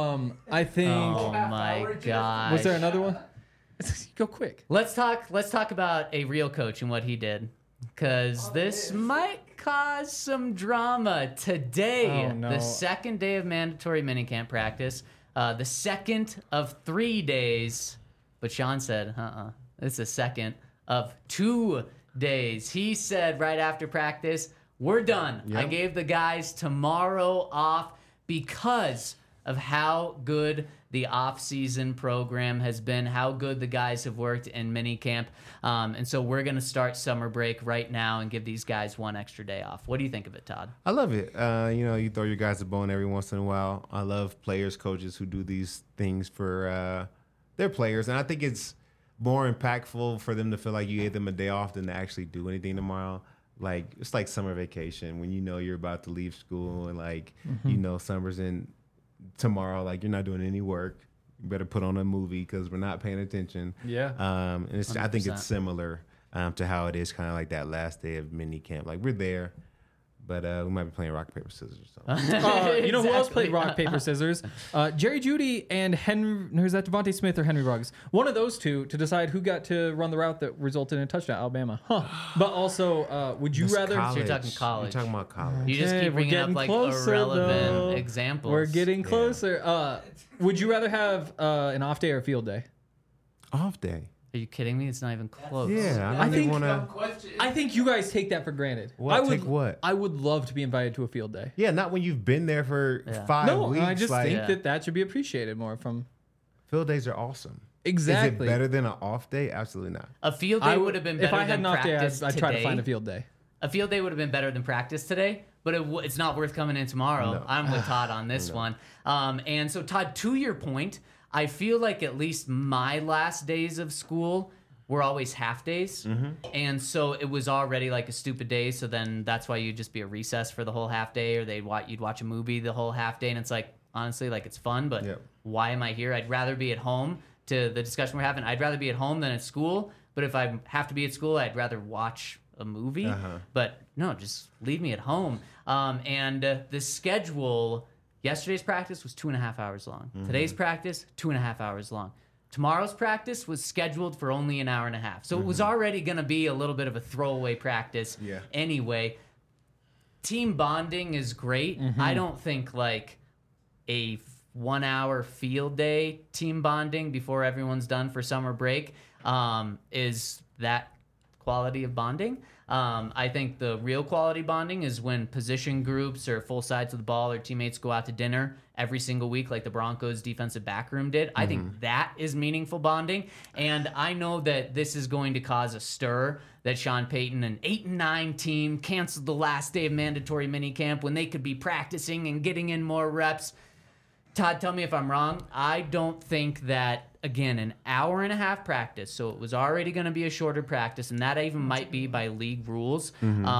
I think. Oh my god! Was there another one? Go quick. Let's talk about a real coach and what he did, because this might cause some drama today. Oh, no. The second day of mandatory minicamp practice, the second of 3 days. But Sean said, it's the second of 2 days. He said right after practice, we're done. I gave the guys tomorrow off because of how good the off-season program has been, how good the guys have worked in minicamp. And so we're going to start summer break right now and give these guys one extra day off. What do you think of it, Todd? I love it. You throw your guys a bone every once in a while. I love players, coaches who do these things for their players. And I think it's more impactful for them to feel like you gave them a day off than to actually do anything tomorrow. Like, it's like summer vacation when you know you're about to leave school and, like, summer's in tomorrow. Like, you're not doing any work. You better put on a movie because we're not paying attention. Yeah. And I think 100%. it's similar to how it is kind of like that last day of mini camp. Like, we're there, but we might be playing rock, paper, scissors or something. You know who else Exactly. played rock, paper, scissors? Jerry Jeudy and who's that, Devontae Smith or Henry Ruggs? One of those two to decide who got to run the route that resulted in a touchdown, Alabama. But also, would you That's rather... college. You're talking college. You're talking about college. You just Okay, keep we're bringing up getting like closer, irrelevant though. examples. We're getting closer. Would you rather have an off day or a field day? Off day. Are you kidding me? It's not even close. Yeah, I I think- think want to. I think you guys take that for granted. What? I would, Take what? I would love to be invited to a field day. Yeah, not when you've been there for Yeah. 5 No, weeks. I just like, think that should be appreciated more from... field days are awesome. Exactly. Is it better than an off day? Absolutely not. A field day would have been better if I had than an off day, practice I'd try to today. find a field day. A field day would have been better than practice today, but it's not worth coming in tomorrow. No. I'm with Todd on this one. And so, Todd, to your point, I feel like at least my last days of school were always half days. And so it was already like a stupid day. So then that's why you'd just be a recess for the whole half day, or you'd watch a movie the whole half day. And it's like, honestly, like it's fun, but Yep. why am I here? I'd rather be at home. To the discussion we're having, I'd rather be at home than at school. But if I have to be at school, I'd rather watch a movie. But no, just leave me at home. And the schedule, yesterday's practice was 2.5 hours long. Today's practice, 2.5 hours long. Tomorrow's practice was scheduled for only an hour and a half. So it was already going to be a little bit of a throwaway practice anyway. Team bonding is great. I don't think like a 1 hour field day team bonding before everyone's done for summer break is that quality of bonding. I think the real quality bonding is when position groups or full sides of the ball or teammates go out to dinner every single week like the Broncos defensive backroom did. I think that is meaningful bonding. And I know that this is going to cause a stir that Sean Payton, an 8-9 team, canceled the last day of mandatory minicamp when they could be practicing and getting in more reps. Todd, tell me if I'm wrong. I don't think that, again, an hour and a half practice, so it was already going to be a shorter practice, and that even might be by league rules,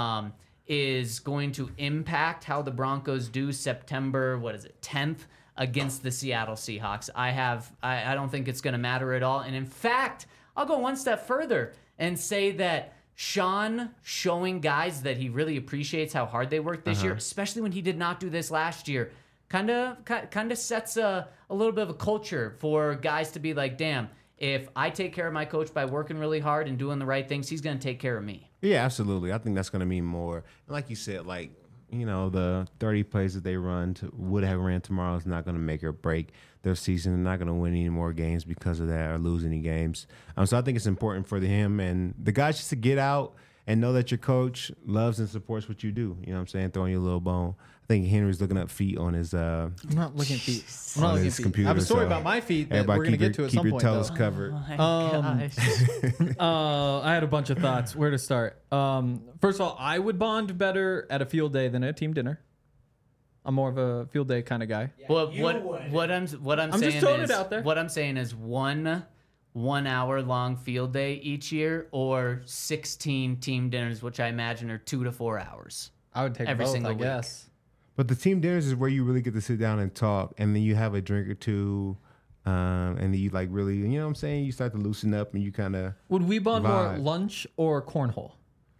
is going to impact how the Broncos do September, 10th against the Seattle Seahawks. I don't think it's going to matter at all. And in fact, I'll go one step further and say that Sean showing guys that he really appreciates how hard they worked this year, especially when he did not do this last year, kind of sets a little bit of a culture for guys to be like, damn, if I take care of my coach by working really hard and doing the right things, he's going to take care of me. Yeah, absolutely. I think that's going to mean more. And like you said, like, the 30 plays that they would have ran tomorrow is not going to make or break their season. They're not going to win any more games because of that or lose any games. So I think it's important for him and the guys just to get out and know that your coach loves and supports what you do. You know what I'm saying? Throwing you a little bone. I think Henry's looking up feet on his I'm not looking at feet. I'm on not looking at his feet. computer. I have a story so about my feet that everybody we're going to get to at some keep point. your toes though. covered. Oh my gosh. I had a bunch of thoughts. Where to start? First of all, I would bond better at a field day than at a team dinner. I'm more of a field day kind of guy. Well, what I'm saying just throwing is it out there. what I'm saying is 1 hour long field day each year or 16 team dinners, which I imagine are 2 to 4 hours. I would take Every both, single I week. guess. But the team dinners is where you really get to sit down and talk, and then you have a drink or two, and then you like really, you know what I'm saying? You start to loosen up, and you kind of Would we bond more Vibe. lunch or cornhole?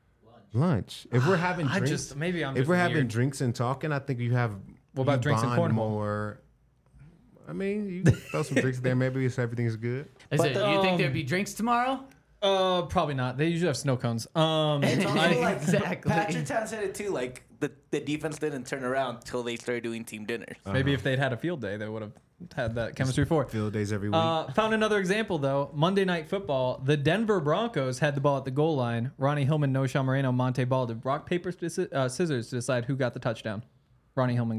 lunch. If we're having I drinks, just maybe I'm if just we're having weird. drinks and talking, I think you have. What about you drinks and bond cornhole? More. I mean, you can throw some drinks there. Maybe if everything's good. Is it, you think there'd be drinks tomorrow? Probably not. They usually have snow cones. It's also like Exactly. Patrick Town said it too. Like the defense didn't turn around till they started doing team dinners. Maybe if they'd had a field day, they would have had that chemistry for it. Field days every week. Found another example though. Monday Night Football. The Denver Broncos had the ball at the goal line. Ronnie Hillman, Noshawn Moreno, Monte Ball did rock paper scissors to decide who got the touchdown. Ronnie Hillman got it.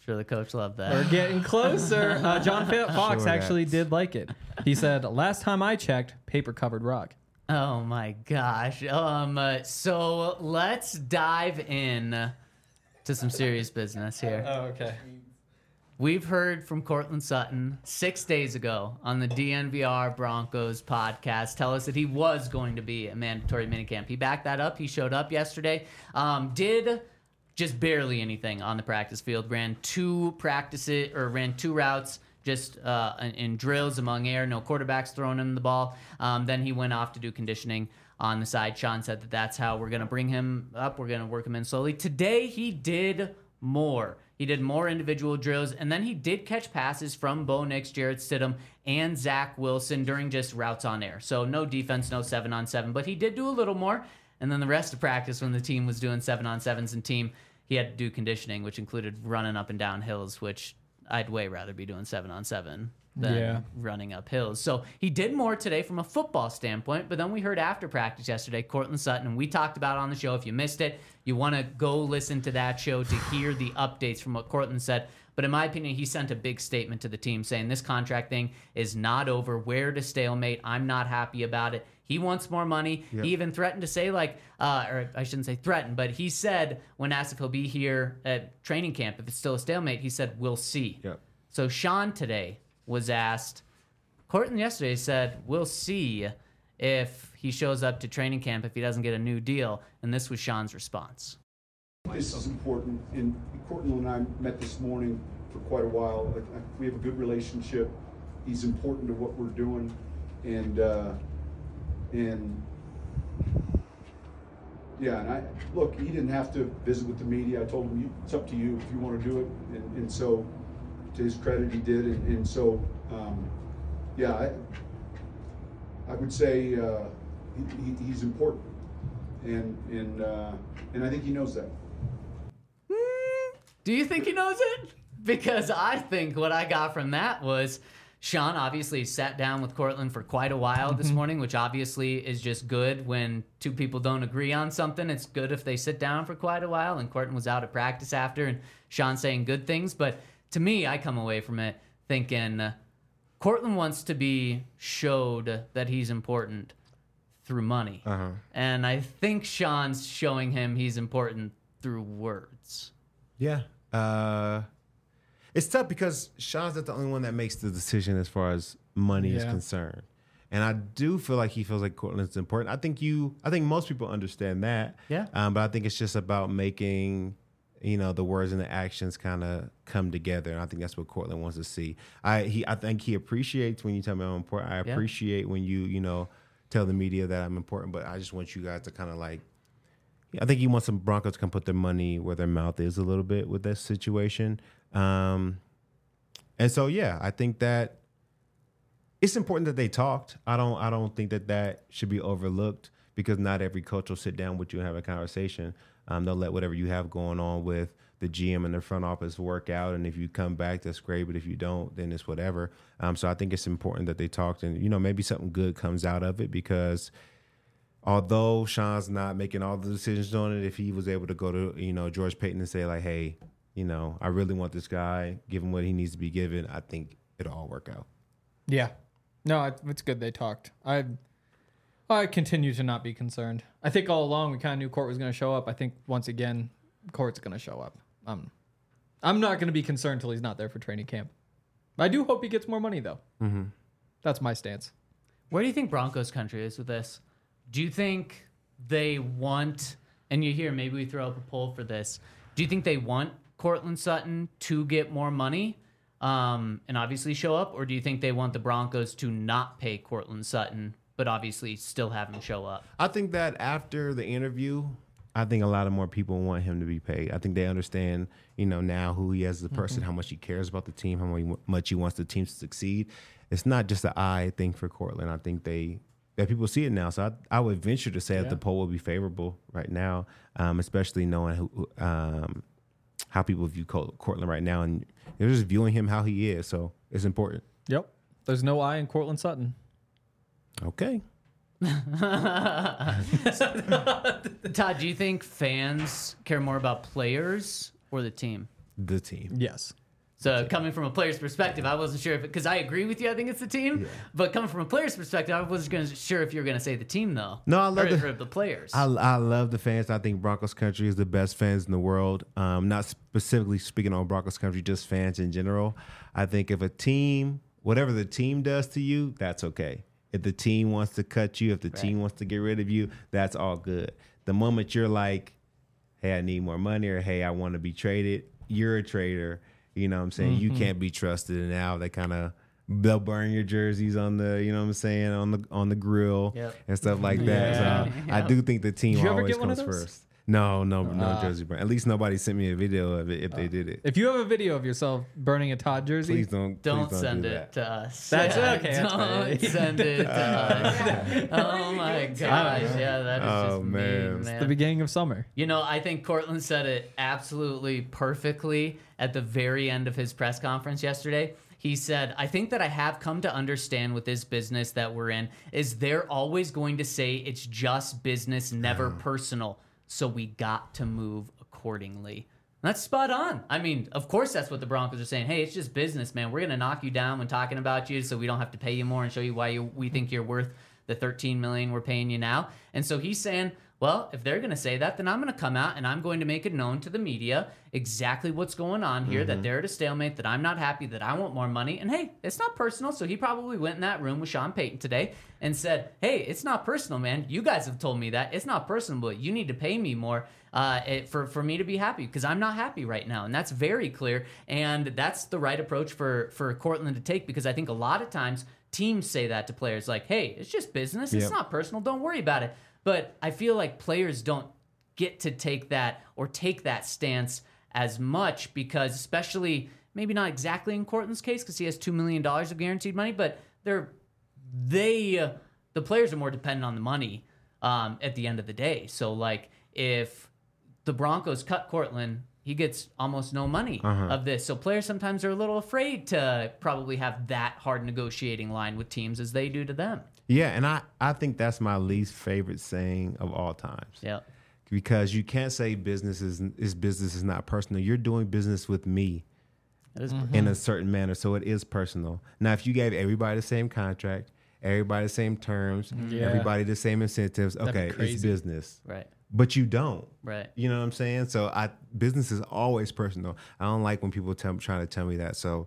Sure, the coach loved that. We're getting closer. John Fox Sure, actually that's- did like it. He said, last time I checked, paper covered rock. Oh my gosh. So let's dive in to some serious business here. Oh, okay. We've heard from Cortland Sutton 6 days ago on the DNVR Broncos podcast tell us that he was going to be a mandatory minicamp. He backed that up. He showed up yesterday. Did just barely anything on the practice field. Ran two routes just in drills among air. No quarterbacks throwing him the ball. Then he went off to do conditioning on the side. Sean said that that's how we're going to bring him up. We're going to work him in slowly. Today he did more. He did more individual drills, and then he did catch passes from Bo Nix, Jarrett Stidham, and Zach Wilson during just routes on air. So no defense, no 7-on-7, but he did do a little more. And then the rest of practice, when the team was doing 7-on-7s and team, he had to do conditioning, which included running up and down hills, which I'd way rather be doing 7-on-7 than running up hills. So he did more today from a football standpoint, but then we heard after practice yesterday, Cortland Sutton, and we talked about it on the show. If you missed it, you want to go listen to that show to hear the updates from what Cortland said. But in my opinion, he sent a big statement to the team saying this contract thing is not over. We're to stalemate. I'm not happy about it. He wants more money. Yep. He even threatened to say, or I shouldn't say threatened, but he said when asked if he'll be here at training camp, if it's still a stalemate, he said, we'll see. Yep. So Sean today was asked, Cortland yesterday said, we'll see if he shows up to training camp if he doesn't get a new deal. And this was Sean's response. This is important, and Cortland and I met this morning for quite a while. We have a good relationship. He's important to what we're doing, and look, he didn't have to visit with the media. I told him, it's up to you if you want to do it, and so to his credit, he did, and so I would say he's important, and I think he knows that. Do you think he knows it? Because I think what I got from that was Sean obviously sat down with Cortland for quite a while this morning, which obviously is just good when two people don't agree on something. It's good if they sit down for quite a while, and Cortland was out at practice after, and Sean saying good things. But to me, I come away from it thinking Cortland wants to be showed that he's important through money. And I think Sean's showing him he's important through words. Yeah. It's tough because Sean's not the only one that makes the decision as far as money is concerned. And I do feel like he feels like Cortland's important. I think most people understand that. Yeah. But I think it's just about making, the words and the actions kind of come together. And I think that's what Cortland wants to see. I think he appreciates when you tell me I'm important. I appreciate when you tell the media that I'm important, but I just want you guys to kind of I think he wants some Broncos to come put their money where their mouth is a little bit with this situation. And so, I think that it's important that they talked. I don't think that should be overlooked because not every coach will sit down with you and have a conversation. They'll let whatever you have going on with the GM and the front office work out. And if you come back, that's great. But if you don't, then it's whatever. So I think it's important that they talked and, maybe something good comes out of it because although Sean's not making all the decisions on it, if he was able to go to, George Payton and say like, hey, I really want this guy, give him what he needs to be given, I think it'll all work out. Yeah. No, it's good they talked. I continue to not be concerned. I think all along we kind of knew Court was going to show up. I think once again, Court's going to show up. I'm not going to be concerned until he's not there for training camp. I do hope he gets more money, though. Mm-hmm. That's my stance. Where do you think Broncos country is with this? Do you think they want, and you hear maybe we throw up a poll for this, do you think they want Cortland Sutton to get more money and obviously show up, or do you think they want the Broncos to not pay Cortland Sutton but obviously still have him show up? I think that after the interview, I think a lot of more people want him to be paid. I think they understand, now who he is as a person, how much he cares about the team, how much he wants the team to succeed. It's not just an I thing for Cortland. I think that people see it now. So I would venture to say that the poll will be favorable right now, especially knowing how people view Cortland right now. And they're just viewing him how he is. So it's important. Yep. There's no I in Cortland Sutton. Okay. Todd, do you think fans care more about players or the team? The team. Yes. So coming from a player's perspective, I wasn't sure if because I agree with you. I think it's the team, but coming from a player's perspective, I wasn't sure if you were going to say the team though. No, I love or the players. I love the fans. I think Broncos country is the best fans in the world. Not specifically speaking on Broncos country, just fans in general. I think if a team, whatever the team does to you, that's okay. If the team wants to cut you, if the team wants to get rid of you, that's all good. The moment you're like, hey, I need more money, or hey, I want to be traded, you're a traitor. You know what I'm saying? You can't be trusted. And now they'll burn your jerseys on the, you know what I'm saying, on the grill and stuff like that. So I do think the team Did you ever always get one of comes those? first. No jersey burn. At least nobody sent me a video of it if they did it. If you have a video of yourself burning a Todd jersey, Please don't send do it that. to us. That's Yeah, okay, that's Don't fine. send it to us. Oh my gosh. Yeah, that is Oh, just man. mean, man. the beginning of summer. You know, I think Cortland said it absolutely perfectly at the very end of his press conference yesterday. He said, I think that I have come to understand with this business that we're in is they're always going to say it's just business, never personal. So we got to move accordingly. That's spot on. I mean, of course that's what the Broncos are saying. Hey, it's just business, man. We're going to knock you down when talking about you so we don't have to pay you more and show you why we think you're worth the $13 million we're paying you now. And so he's saying, well, if they're going to say that, then I'm going to come out and I'm going to make it known to the media exactly what's going on here, that they're at a stalemate, that I'm not happy, that I want more money. And hey, it's not personal. So he probably went in that room with Sean Payton today and said, hey, it's not personal, man. You guys have told me that. It's not personal, but you need to pay me more for me to be happy because I'm not happy right now. And that's very clear. And that's the right approach for Cortland to take because I think a lot of times teams say that to players like, hey, it's just business. It's not personal. Don't worry about it. But I feel like players don't get to take that stance as much because especially maybe not exactly in Cortland's case because he has $2 million of guaranteed money, but the players are more dependent on the money at the end of the day. So like if the Broncos cut Cortland, he gets almost no money of this. So players sometimes are a little afraid to probably have that hard negotiating line with teams as they do to them. Yeah, and I think that's my least favorite saying of all times. Yeah. Because you can't say business is not personal. You're doing business with me in a certain manner, so it is personal. Now, if you gave everybody the same contract, everybody the same terms, everybody the same incentives, okay, it's business. Right. But you don't. Right. You know what I'm saying? So business is always personal. I don't like when people trying to tell me that. So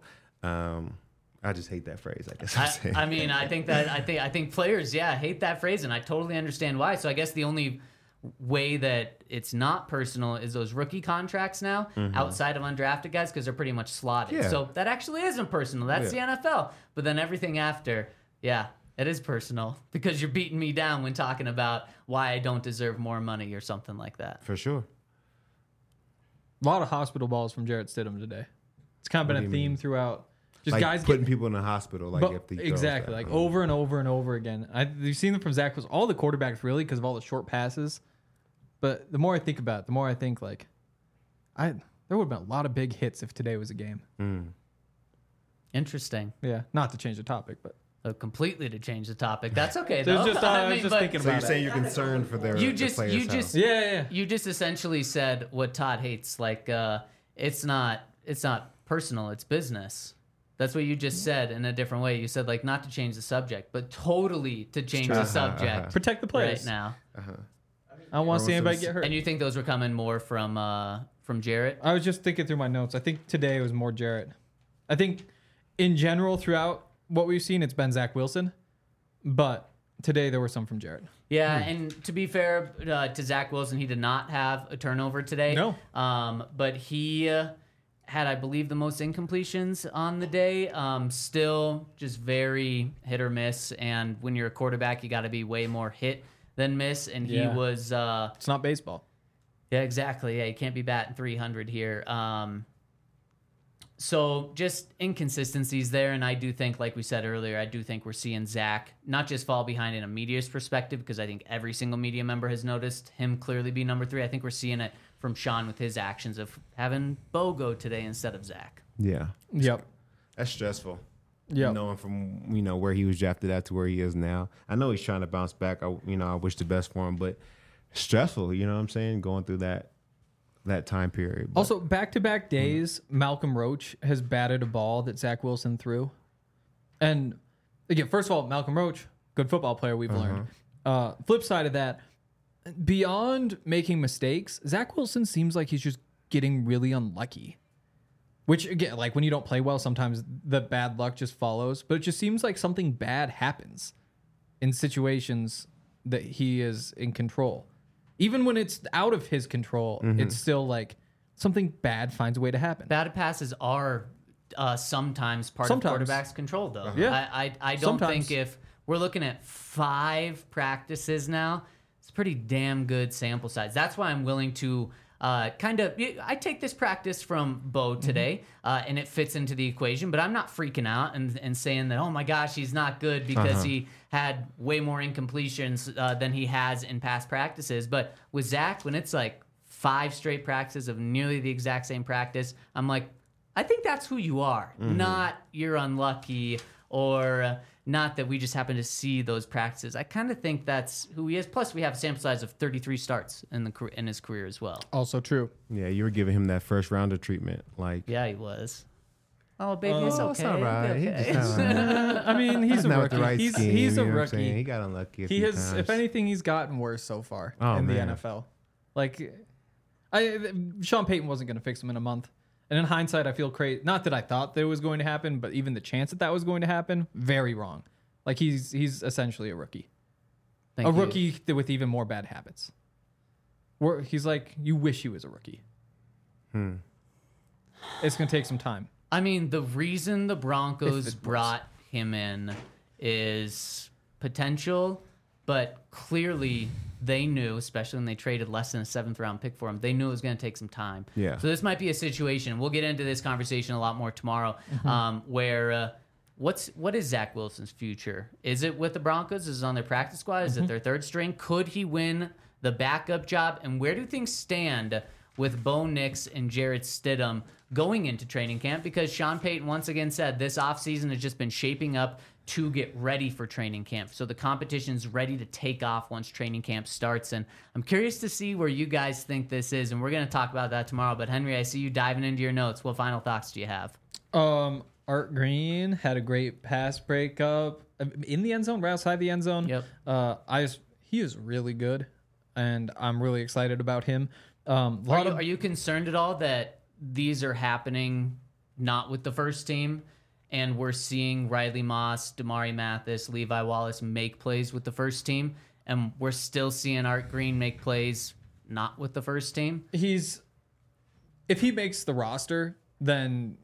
I just hate that phrase, I guess I'm saying. I mean, I think players, hate that phrase, and I totally understand why. So I guess the only way that it's not personal is those rookie contracts now, outside of undrafted guys, because they're pretty much slotted. Yeah. So that actually isn't personal. That's the NFL. But then everything after, it is personal because you're beating me down when talking about why I don't deserve more money or something like that. For sure. A lot of hospital balls from Jarrett Stidham today. It's kind of been a theme throughout. Just Like guys putting people in the hospital, like if they exactly, like over and over and over again. You've seen them from Zach was all the quarterbacks really because of all the short passes. But the more I think about it, the more I think like, there would have been a lot of big hits if today was a game. Interesting. Yeah, not to change the topic, but Completely to change the topic. That's okay So though. it's just, I was just but thinking So you're about it. saying you're concerned for their You the just- players' you health. just- Yeah. You just essentially said what Todd hates. Like, it's not personal. It's business. That's what you just said in a different way. You said like not to change the subject, but totally to change the subject Protect the players. right now. I don't want to see anybody get hurt. And you think those were coming more from Jarrett? I was just thinking through my notes. I think today it was more Jarrett. I think in general throughout what we've seen, it's been Zach Wilson, but today there were some from Jarrett. Yeah, and to be fair to Zach Wilson, he did not have a turnover today. No. But he had, I believe, the most incompletions on the day. Still just very hit or miss. And when you're a quarterback, you got to be way more hit than miss. And he Yeah. was... It's not baseball. Yeah, exactly. Yeah, you can't be batting 300 here. So just inconsistencies there, and I do think, like we said earlier, I do think we're seeing Zach not just fall behind in a media's perspective, because I think every single media member has noticed him clearly be number 3. I think we're seeing it from Sean with his actions of having Bo go today instead of Zach. Yeah. Yep. That's stressful. Yep. Knowing from where he was drafted at to where he is now. I know he's trying to bounce back. I wish the best for him, but stressful. You know what I'm saying? Going through that that time period. But Also, back-to-back days, Malcolm Roach has batted a ball that Zach Wilson threw. And again, first of all, Malcolm Roach, good football player, we've learned. Flip side of that, beyond making mistakes, Zach Wilson seems like he's just getting really unlucky. Which, again, like when you don't play well, sometimes the bad luck just follows. But it just seems like something bad happens in situations that he is in control. Even when it's out of his control, it's still like something bad finds a way to happen. Bad passes are sometimes part of quarterback's control, though. Yeah. I don't think if we're looking at 5 practices now, it's a pretty damn good sample size. That's why I'm willing to I take this practice from Bo today, and it fits into the equation, but I'm not freaking out and saying that, oh my gosh, he's not good because he had way more incompletions than he has in past practices. But with Zach, when it's like 5 straight practices of nearly the exact same practice, I'm like, I think that's who you are, not you're unlucky or not that we just happen to see those practices. I kind of think that's who he is. Plus, we have a sample size of 33 starts in his career as well. Also true. yeah, you were giving him that first rounder treatment. Like, Yeah, he was. Oh, baby, it's okay. it's all right. It'll be He okay. just not right. I mean, he's a Not with rookie. the right he's scheme, he's a you know what I'm saying? rookie. He got unlucky. He has, if anything, he's gotten worse so far in the NFL. Like, Sean Payton wasn't going to fix him in a month. And in hindsight, I feel crazy. Not that I thought that was going to happen, but even the chance that was going to happen, very wrong. Like, he's essentially a rookie. Thank you. Rookie with even more bad habits. He's like, you wish he was a rookie. It's going to take some time. I mean, the reason the If Broncos it was. brought him in is potential, but clearly they knew, especially when they traded less than a 7th round pick for him, they knew it was going to take some time. Yeah. So this might be a situation. We'll get into this conversation a lot more tomorrow, where what is Zach Wilson's future? Is it with the Broncos? Is it on their practice squad? Is it their 3rd string? Could he win the backup job? And where do things stand with Bo Nix and Jarrett Stidham going into training camp? Because Sean Payton once again said this offseason has just been shaping up to get ready for training camp. So the competition's ready to take off once training camp starts. And I'm curious to see where you guys think this is. And we're going to talk about that tomorrow. But Henry, I see you diving into your notes. What final thoughts do you have? Art Green had a great pass breakup in the end zone, right outside the end zone. Yep. He is really good, and I'm really excited about him. Are you concerned at all that these are happening not with the first team, and we're seeing Riley Moss, Damari Mathis, Levi Wallace make plays with the first team, and we're still seeing Art Green make plays not with the first team? If he makes the roster, then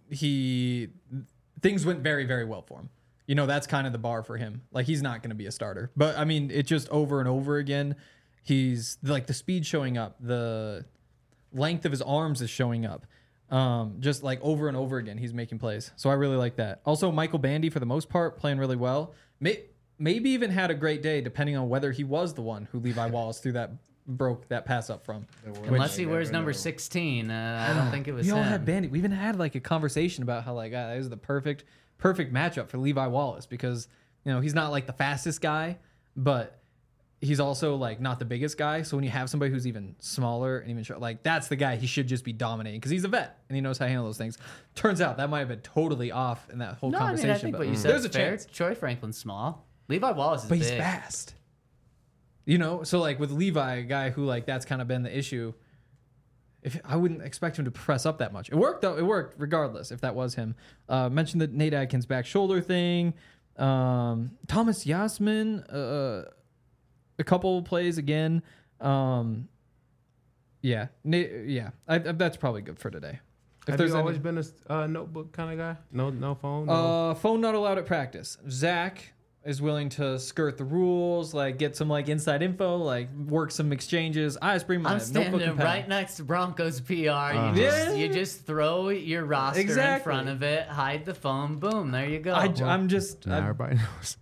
things went very, very well for him. You know, that's kind of the bar for him. Like, he's not going to be a starter. But, I mean, it just over and over again, he's, like, the speed showing up, the length of his arms is showing up. Just, like, over and over again, he's making plays. So I really like that. Also, Michael Bandy, for the most part, playing really well. Maybe even had a great day, depending on whether he was the one who Levi Wallace broke that pass up from. Unless he wears number 16, I don't think it was We all him. had Bandy. We even had like a conversation about how like that is the perfect matchup for Levi Wallace because you know he's not like the fastest guy, but he's also like not the biggest guy. So when you have somebody who's even smaller and even short, like that's the guy he should just be dominating because he's a vet and he knows how to handle those things. Turns out that might have been totally off in that whole No, I conversation. mean, I think but what you said there's is a fair. chance, Troy Franklin's small. Levi Wallace is but big. he's fast. You know, so like with Levi, a guy who like that's kind of been the issue. I wouldn't expect him to press up that much. It worked though. It worked regardless if that was him. Mentioned the Nate Adkins back shoulder thing. Thomas Yasmin, a couple plays again. Yeah, that's probably good for today. Have you always been a notebook kind of guy? No phone? No? Phone not allowed at practice. Zach is willing to skirt the rules, like get some like inside info, like work some exchanges. I just bring my I'm notebook standing and pen. right next to Broncos PR. Yeah. You just throw your roster in Exactly. front of it, hide the phone, boom, there you go. I'm just Nah, everybody knows.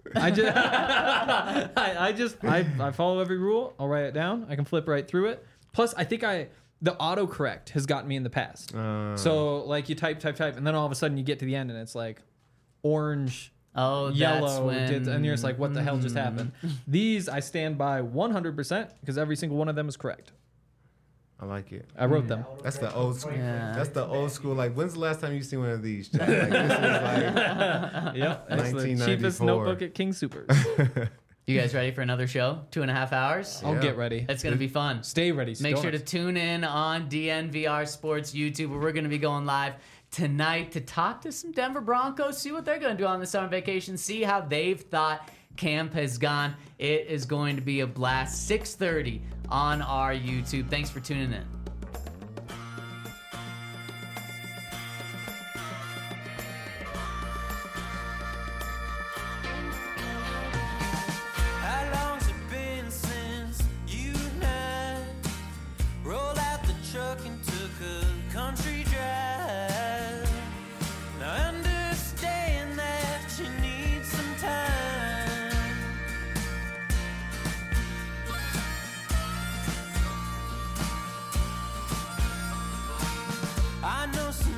I follow every rule. I'll write it down. I can flip right through it. Plus, I think the autocorrect has gotten me in the past. So like you type, and then all of a sudden you get to the end and it's like orange, that's yellow, when, and you're just like, what the hell just happened? These I stand by 100% because every single one of them is correct. I like it. I wrote them. That's the old school. Yeah. That's the old school. Like, when's the last time you seen one of these? Jack? Like, this is like Yep. That's the 1994. cheapest notebook at King Supers. You guys ready for another show? 2.5 hours? I'll Yeah. get ready. It's going to be fun. Stay ready. Make Don't sure to have tune in on DNVR Sports YouTube, where we're going to be going live tonight to talk to some Denver Broncos, see what they're going to do on the summer vacation, see how they've thought camp has gone. It is going to be a blast. 6:30 on our YouTube. Thanks for tuning in. How long's it been since you and I rolled out the truck and took a country drive? Now I understand that you need some time. I know some